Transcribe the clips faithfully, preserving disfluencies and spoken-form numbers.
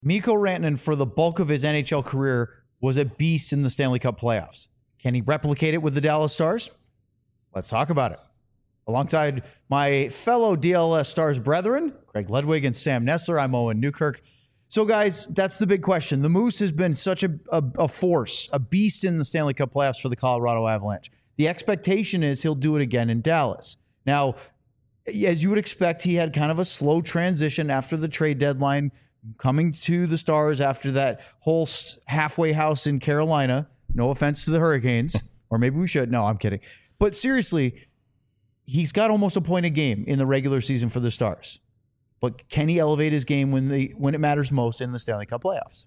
Mikko Rantanen, for the bulk of his N H L career, was a beast in the Stanley Cup playoffs. Can he replicate it with the Dallas Stars? Let's talk about it. Alongside my fellow D L S Stars brethren, Craig Ludwig and Sam Nessler, I'm Owen Newkirk. So, guys, that's the big question. The Moose has been such a, a, a force, a beast in the Stanley Cup playoffs for the Colorado Avalanche. The expectation is he'll do it again in Dallas. Now, as you would expect, he had kind of a slow transition after the trade deadline, coming to the Stars after that whole halfway house in Carolina. No offense to the Hurricanes, or maybe we should. No, I'm kidding. But seriously, he's got almost a point a game in the regular season for the Stars. But can he elevate his game when the when it matters most in the Stanley Cup playoffs?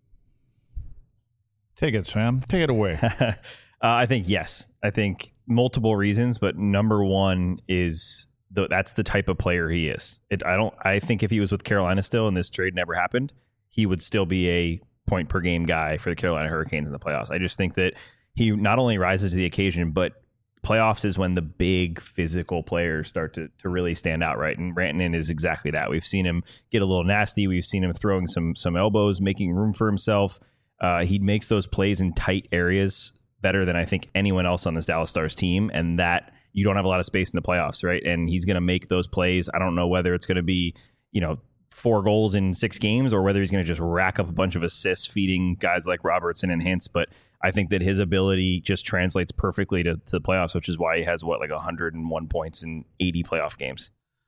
Take it, Sam. Take it away. uh, I think yes. I think multiple reasons, but number one is the, that's the type of player he is. It, I don't. I think if he was with Carolina still and this trade never happened, he would still be a point per game guy for the Carolina Hurricanes in the playoffs. I just think that he not only rises to the occasion, but playoffs is when the big physical players start to to really stand out, right? And Rantanen is exactly that. We've seen him get a little nasty. We've seen him throwing some some elbows, making room for himself. Uh, he makes those plays in tight areas better than I think anyone else on this Dallas Stars team, and that you don't have a lot of space in the playoffs, right? And he's going to make those plays. I don't know whether it's going to be, you know, four goals in six games or whether he's going to just rack up a bunch of assists feeding guys like Robertson and Hintz. But I think that his ability just translates perfectly to, to the playoffs, which is why he has, what, like one hundred one points in eighty playoff games.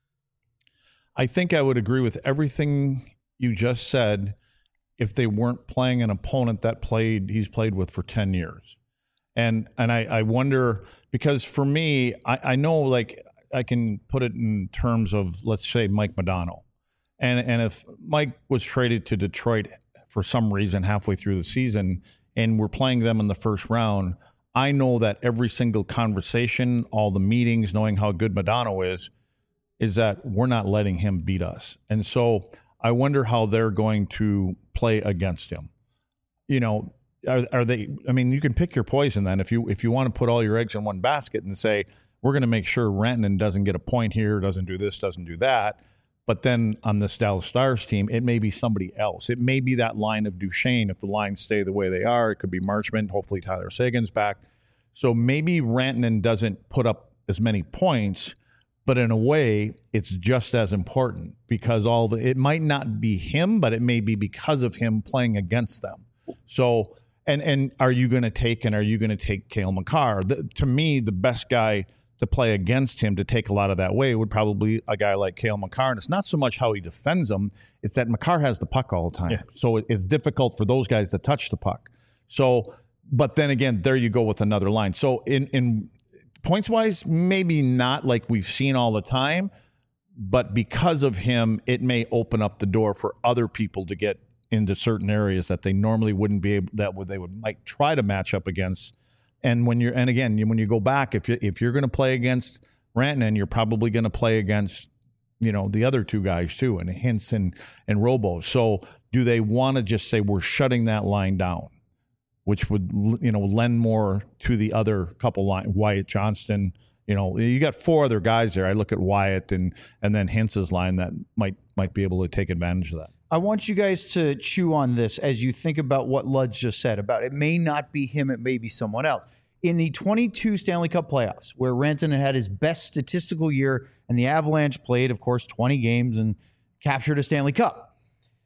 I think I would agree with everything you just said if they weren't playing an opponent that played he's played with for ten years. And and I, I wonder, because for me, I, I know, like, I can put it in terms of, let's say, Mike Modano. And and if Mike was traded to Detroit for some reason halfway through the season and we're playing them in the first round, I know that every single conversation, all the meetings, knowing how good Modano is, is that we're not letting him beat us. And so I wonder how they're going to play against him. You know, are, are they, I mean, you can pick your poison then. If you if you want to put all your eggs in one basket and say, we're going to make sure Rantanen doesn't get a point here, doesn't do this, doesn't do that. But then on this Dallas Stars team, it may be somebody else. It may be that line of Duchesne if the lines stay the way they are. It could be Marchment, hopefully Tyler Seguin's back. So maybe Rantanen doesn't put up as many points, but in a way, it's just as important because all the, it might not be him, but it may be because of him playing against them. So, and and are you going to take and are you going to take Cale Makar? The, to me, the best guy to play against him to take a lot of that away would probably a guy like Cale Makar. And it's not so much how he defends them, it's that Makar has the puck all the time. Yeah. So it, it's difficult for those guys to touch the puck. So, but then again, there you go with another line. So in, in points-wise, maybe not like we've seen all the time, but because of him, it may open up the door for other people to get into certain areas that they normally wouldn't be able, that would they would might try to match up against. And when you're, and again, when you go back, if you if you're going to play against Rantanen, you're probably going to play against, you know, the other two guys too, and Hintz and and Robo. So do they want to just say we're shutting that line down, which would, you know, lend more to the other couple line, Wyatt Johnston. You know, you got four other guys there. I look at Wyatt and and then Hintz's line that might might be able to take advantage of that. I want you guys to chew on this as you think about what Ludge just said about it may not be him, it may be someone else. In the twenty-two Stanley Cup playoffs, where Rantanen had his best statistical year and the Avalanche played, of course, twenty games and captured a Stanley Cup,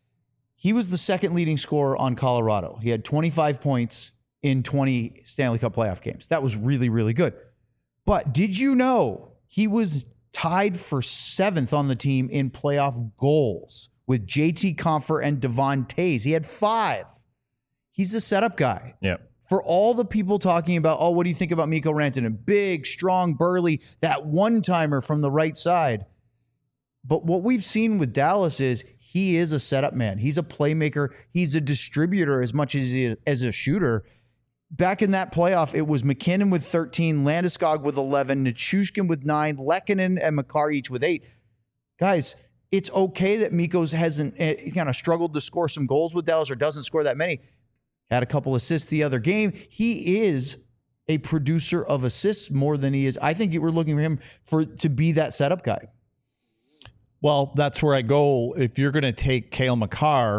he was the second leading scorer on Colorado. He had twenty-five points in twenty Stanley Cup playoff games. That was really, really good. But did you know he was tied for seventh on the team in playoff goals with J T Compher and Devon Toews? He had five. He's a setup guy. Yeah. For all the people talking about, oh, what do you think about Mikko Rantanen? Big, strong, burly, that one-timer from the right side. But what we've seen with Dallas is he is a setup man. He's a playmaker. He's a distributor as much as he as a shooter. Back in that playoff, it was McKinnon with thirteen, Landeskog with eleven, Nichushkin with nine, Lehkonen and Makar each with eight. Guys, it's okay that Mikko's hasn't eh, kind of struggled to score some goals with Dallas or doesn't score that many. Had a couple assists the other game. He is a producer of assists more than he is. I think we're looking for him for to be that setup guy. Well, that's where I go. If you're going to take Cale Makar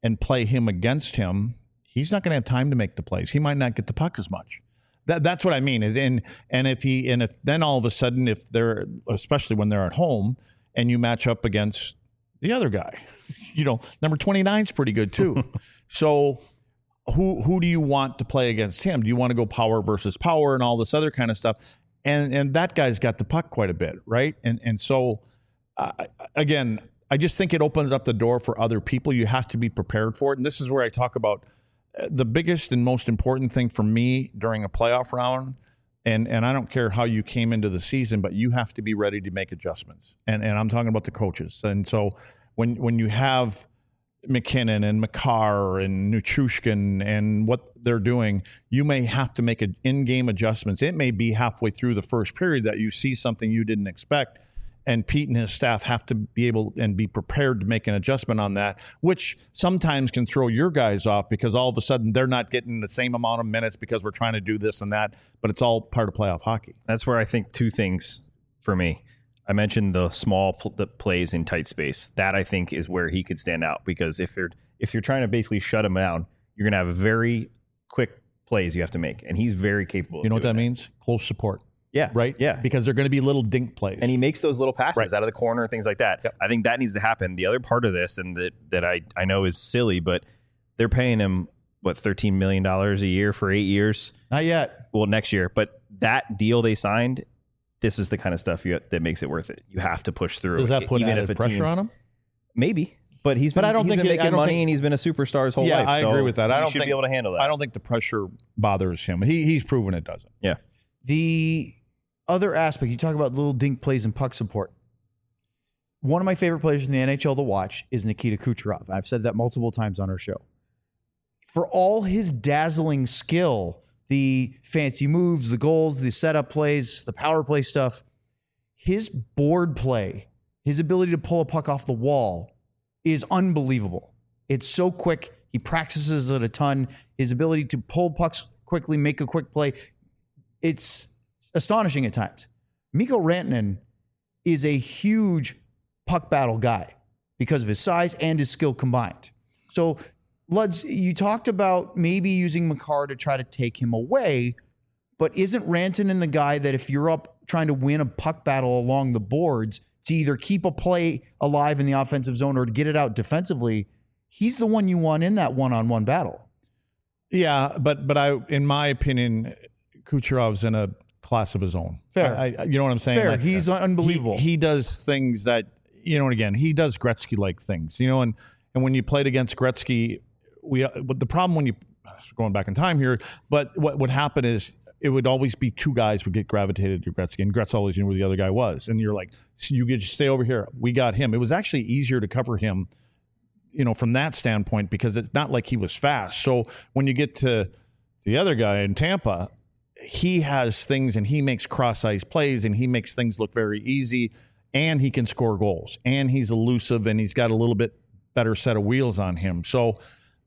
and play him against him, he's not going to have time to make the plays. He might not get the puck as much. That, that's what I mean. And and if he and if then all of a sudden, if they're, especially when they're at home, and you match up against the other guy, you know, number twenty-nine is pretty good too. So who who do you want to play against him? Do you want to go power versus power and all this other kind of stuff? And and that guy's got the puck quite a bit, right? And and so uh, again, I just think it opens up the door for other people. You have to be prepared for it. And this is where I talk about the biggest and most important thing for me during a playoff round, and and I don't care how you came into the season, but you have to be ready to make adjustments. And and I'm talking about the coaches. And so when when you have McKinnon and Makar and Nichushkin and what they're doing, you may have to make an in-game adjustments. It may be halfway through the first period that you see something you didn't expect. And Pete and his staff have to be able and be prepared to make an adjustment on that, which sometimes can throw your guys off because all of a sudden they're not getting the same amount of minutes because we're trying to do this and that, but it's all part of playoff hockey. That's where I think two things for me. I mentioned the small pl- the plays in tight space. That I think is where he could stand out, because if you're if you're trying to basically shut him down, you're going to have very quick plays you have to make, and he's very capable. You know of what that, that means? Close support. Yeah. Right? Yeah. Because they're going to be little dink plays. And he makes those little passes right. out of the corner, things like that. Yep. I think that needs to happen. The other part of this, and that, that I, I know is silly, but they're paying him, what, thirteen million dollars a year for eight years? Not yet. Well, next year. But that deal they signed, this is the kind of stuff you, that makes it worth it. You have to push through. Does that put even added if a pressure team, on him? Maybe. But he's been, but I don't he's think been it, making I don't money think, and he's been a superstar his whole yeah, life. I so agree with that. I don't should think, be able to handle that. I don't think the pressure bothers him. He He's proven it doesn't. Yeah. The other aspect, you talk about little dink plays and puck support. One of my favorite players in the N H L to watch is Nikita Kucherov. I've said that multiple times on our show. For all his dazzling skill, the fancy moves, the goals, the setup plays, the power play stuff, his board play, his ability to pull a puck off the wall is unbelievable. It's so quick. He practices it a ton. His ability to pull pucks quickly, make a quick play, it's astonishing at times. Mikko Rantanen is a huge puck battle guy because of his size and his skill combined. So, Luds, you talked about maybe using Makar to try to take him away, but isn't Rantanen the guy that if you're up trying to win a puck battle along the boards to either keep a play alive in the offensive zone or to get it out defensively, he's the one you want in that one-on-one battle. Yeah, but but I, in my opinion, Kucherov's in a class of his own. Fair. I, I, you know what I'm saying? Fair. Like, He's unbelievable. He, he does things that, you know, and again, he does Gretzky-like things, you know, and, and when you played against Gretzky, we, but the problem when you, going back in time here, but what would happen is it would always be two guys would get gravitated to Gretzky, and Gretzky always knew where the other guy was. And you're like, so you could just stay over here. We got him. It was actually easier to cover him, you know, from that standpoint, because it's not like he was fast. So when you get to the other guy in Tampa, he has things and he makes cross-ice plays and he makes things look very easy, and he can score goals, and he's elusive, and he's got a little bit better set of wheels on him. So,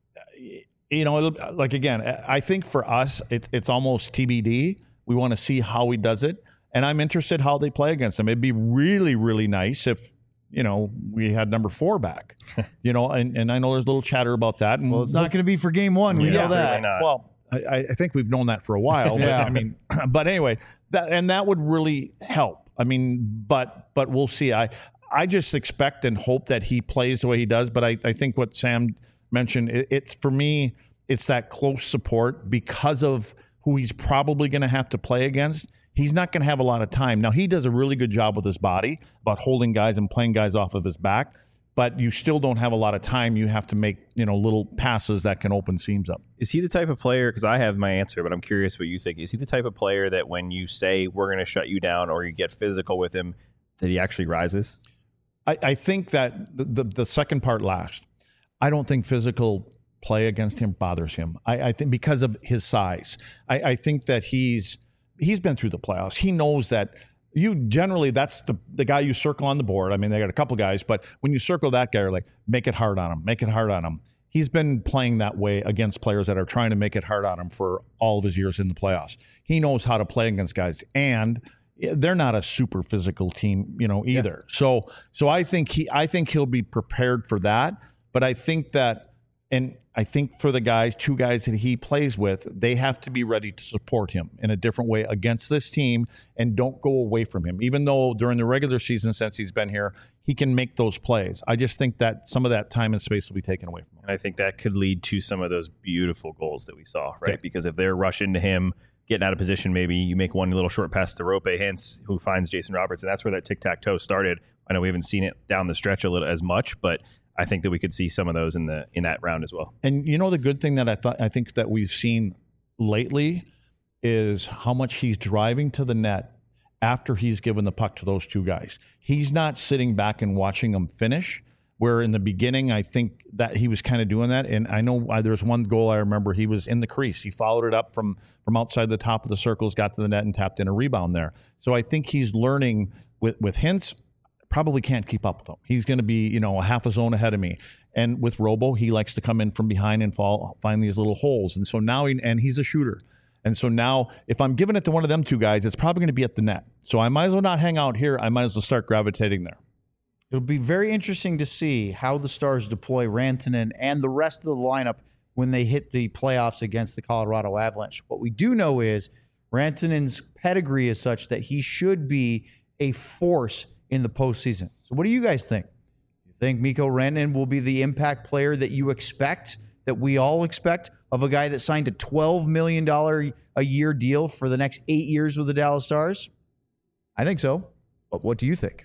you know, like, again, I think for us, it, it's almost T B D. We want to see how he does it, and I'm interested how they play against him. It'd be really, really nice if, you know, we had number four back, you know, and, and I know there's a little chatter about that. And Well, it's not going to be for game one. We Yeah, know that. certainly not. Well, I, I think we've known that for a while. But, Yeah. I mean, but anyway, that and that would really help. I mean, but but we'll see. I I just expect and hope that he plays the way he does. But I, I think what Sam mentioned, it, it's for me, it's that close support because of who he's probably going to have to play against. He's not going to have a lot of time. Now, he does a really good job with his body about holding guys and playing guys off of his back, but you still don't have a lot of time. You have to make, you know, little passes that can open seams up. Is he the type of player, because I have my answer, but I'm curious what you think. Is he the type of player that when you say we're going to shut you down or you get physical with him, that he actually rises? I, I think that the, the, the second part last, I don't think physical play against him bothers him. I, I think because of his size, I, I think that he's he's been through the playoffs. He knows that you generally, that's the, the guy you circle on the board. I mean, they got a couple guys, but when you circle that guy, you're like, make it hard on him, make it hard on him. He's been playing that way against players that are trying to make it hard on him for all of his years in the playoffs. He knows how to play against guys, and they're not a super physical team, you know, either. Yeah. So, so I think he, I think he'll be prepared for that. But I think that And I think for the guys, two guys that he plays with, they have to be ready to support him in a different way against this team and don't go away from him. Even though during the regular season, since he's been here, he can make those plays. I just think that some of that time and space will be taken away from him. And I think that could lead to some of those beautiful goals that we saw, right? Okay. Because if they're rushing to him, getting out of position, maybe you make one little short pass to Rope Hintz, who finds Jason Roberts, and that's where that tic-tac-toe started. I know we haven't seen it down the stretch a little as much, but I think that we could see some of those in the in that round as well. And you know, the good thing that I thought I think that we've seen lately is how much he's driving to the net after he's given the puck to those two guys. He's not sitting back and watching them finish, where in the beginning I think that he was kind of doing that. And I know uh, there was one goal I remember, he was in the crease. He followed it up from from outside the top of the circles, got to the net and tapped in a rebound there. So I think he's learning with with Hintz. Probably can't keep up with him. He's going to be, you know, a half a zone ahead of me. And with Robo, he likes to come in from behind and fall, find these little holes. And so now, he, and he's a shooter. And so now, if I'm giving it to one of them two guys, it's probably going to be at the net. So I might as well not hang out here. I might as well start gravitating there. It'll be very interesting to see how the Stars deploy Rantanen and the rest of the lineup when they hit the playoffs against the Colorado Avalanche. What we do know is Rantanen's pedigree is such that he should be a force in the postseason. So what do you guys think? You think Mikko Rantanen will be the impact player that you expect, that we all expect, of a guy that signed a twelve million dollars a year deal for the next eight years with the Dallas Stars? I think so. But what do you think?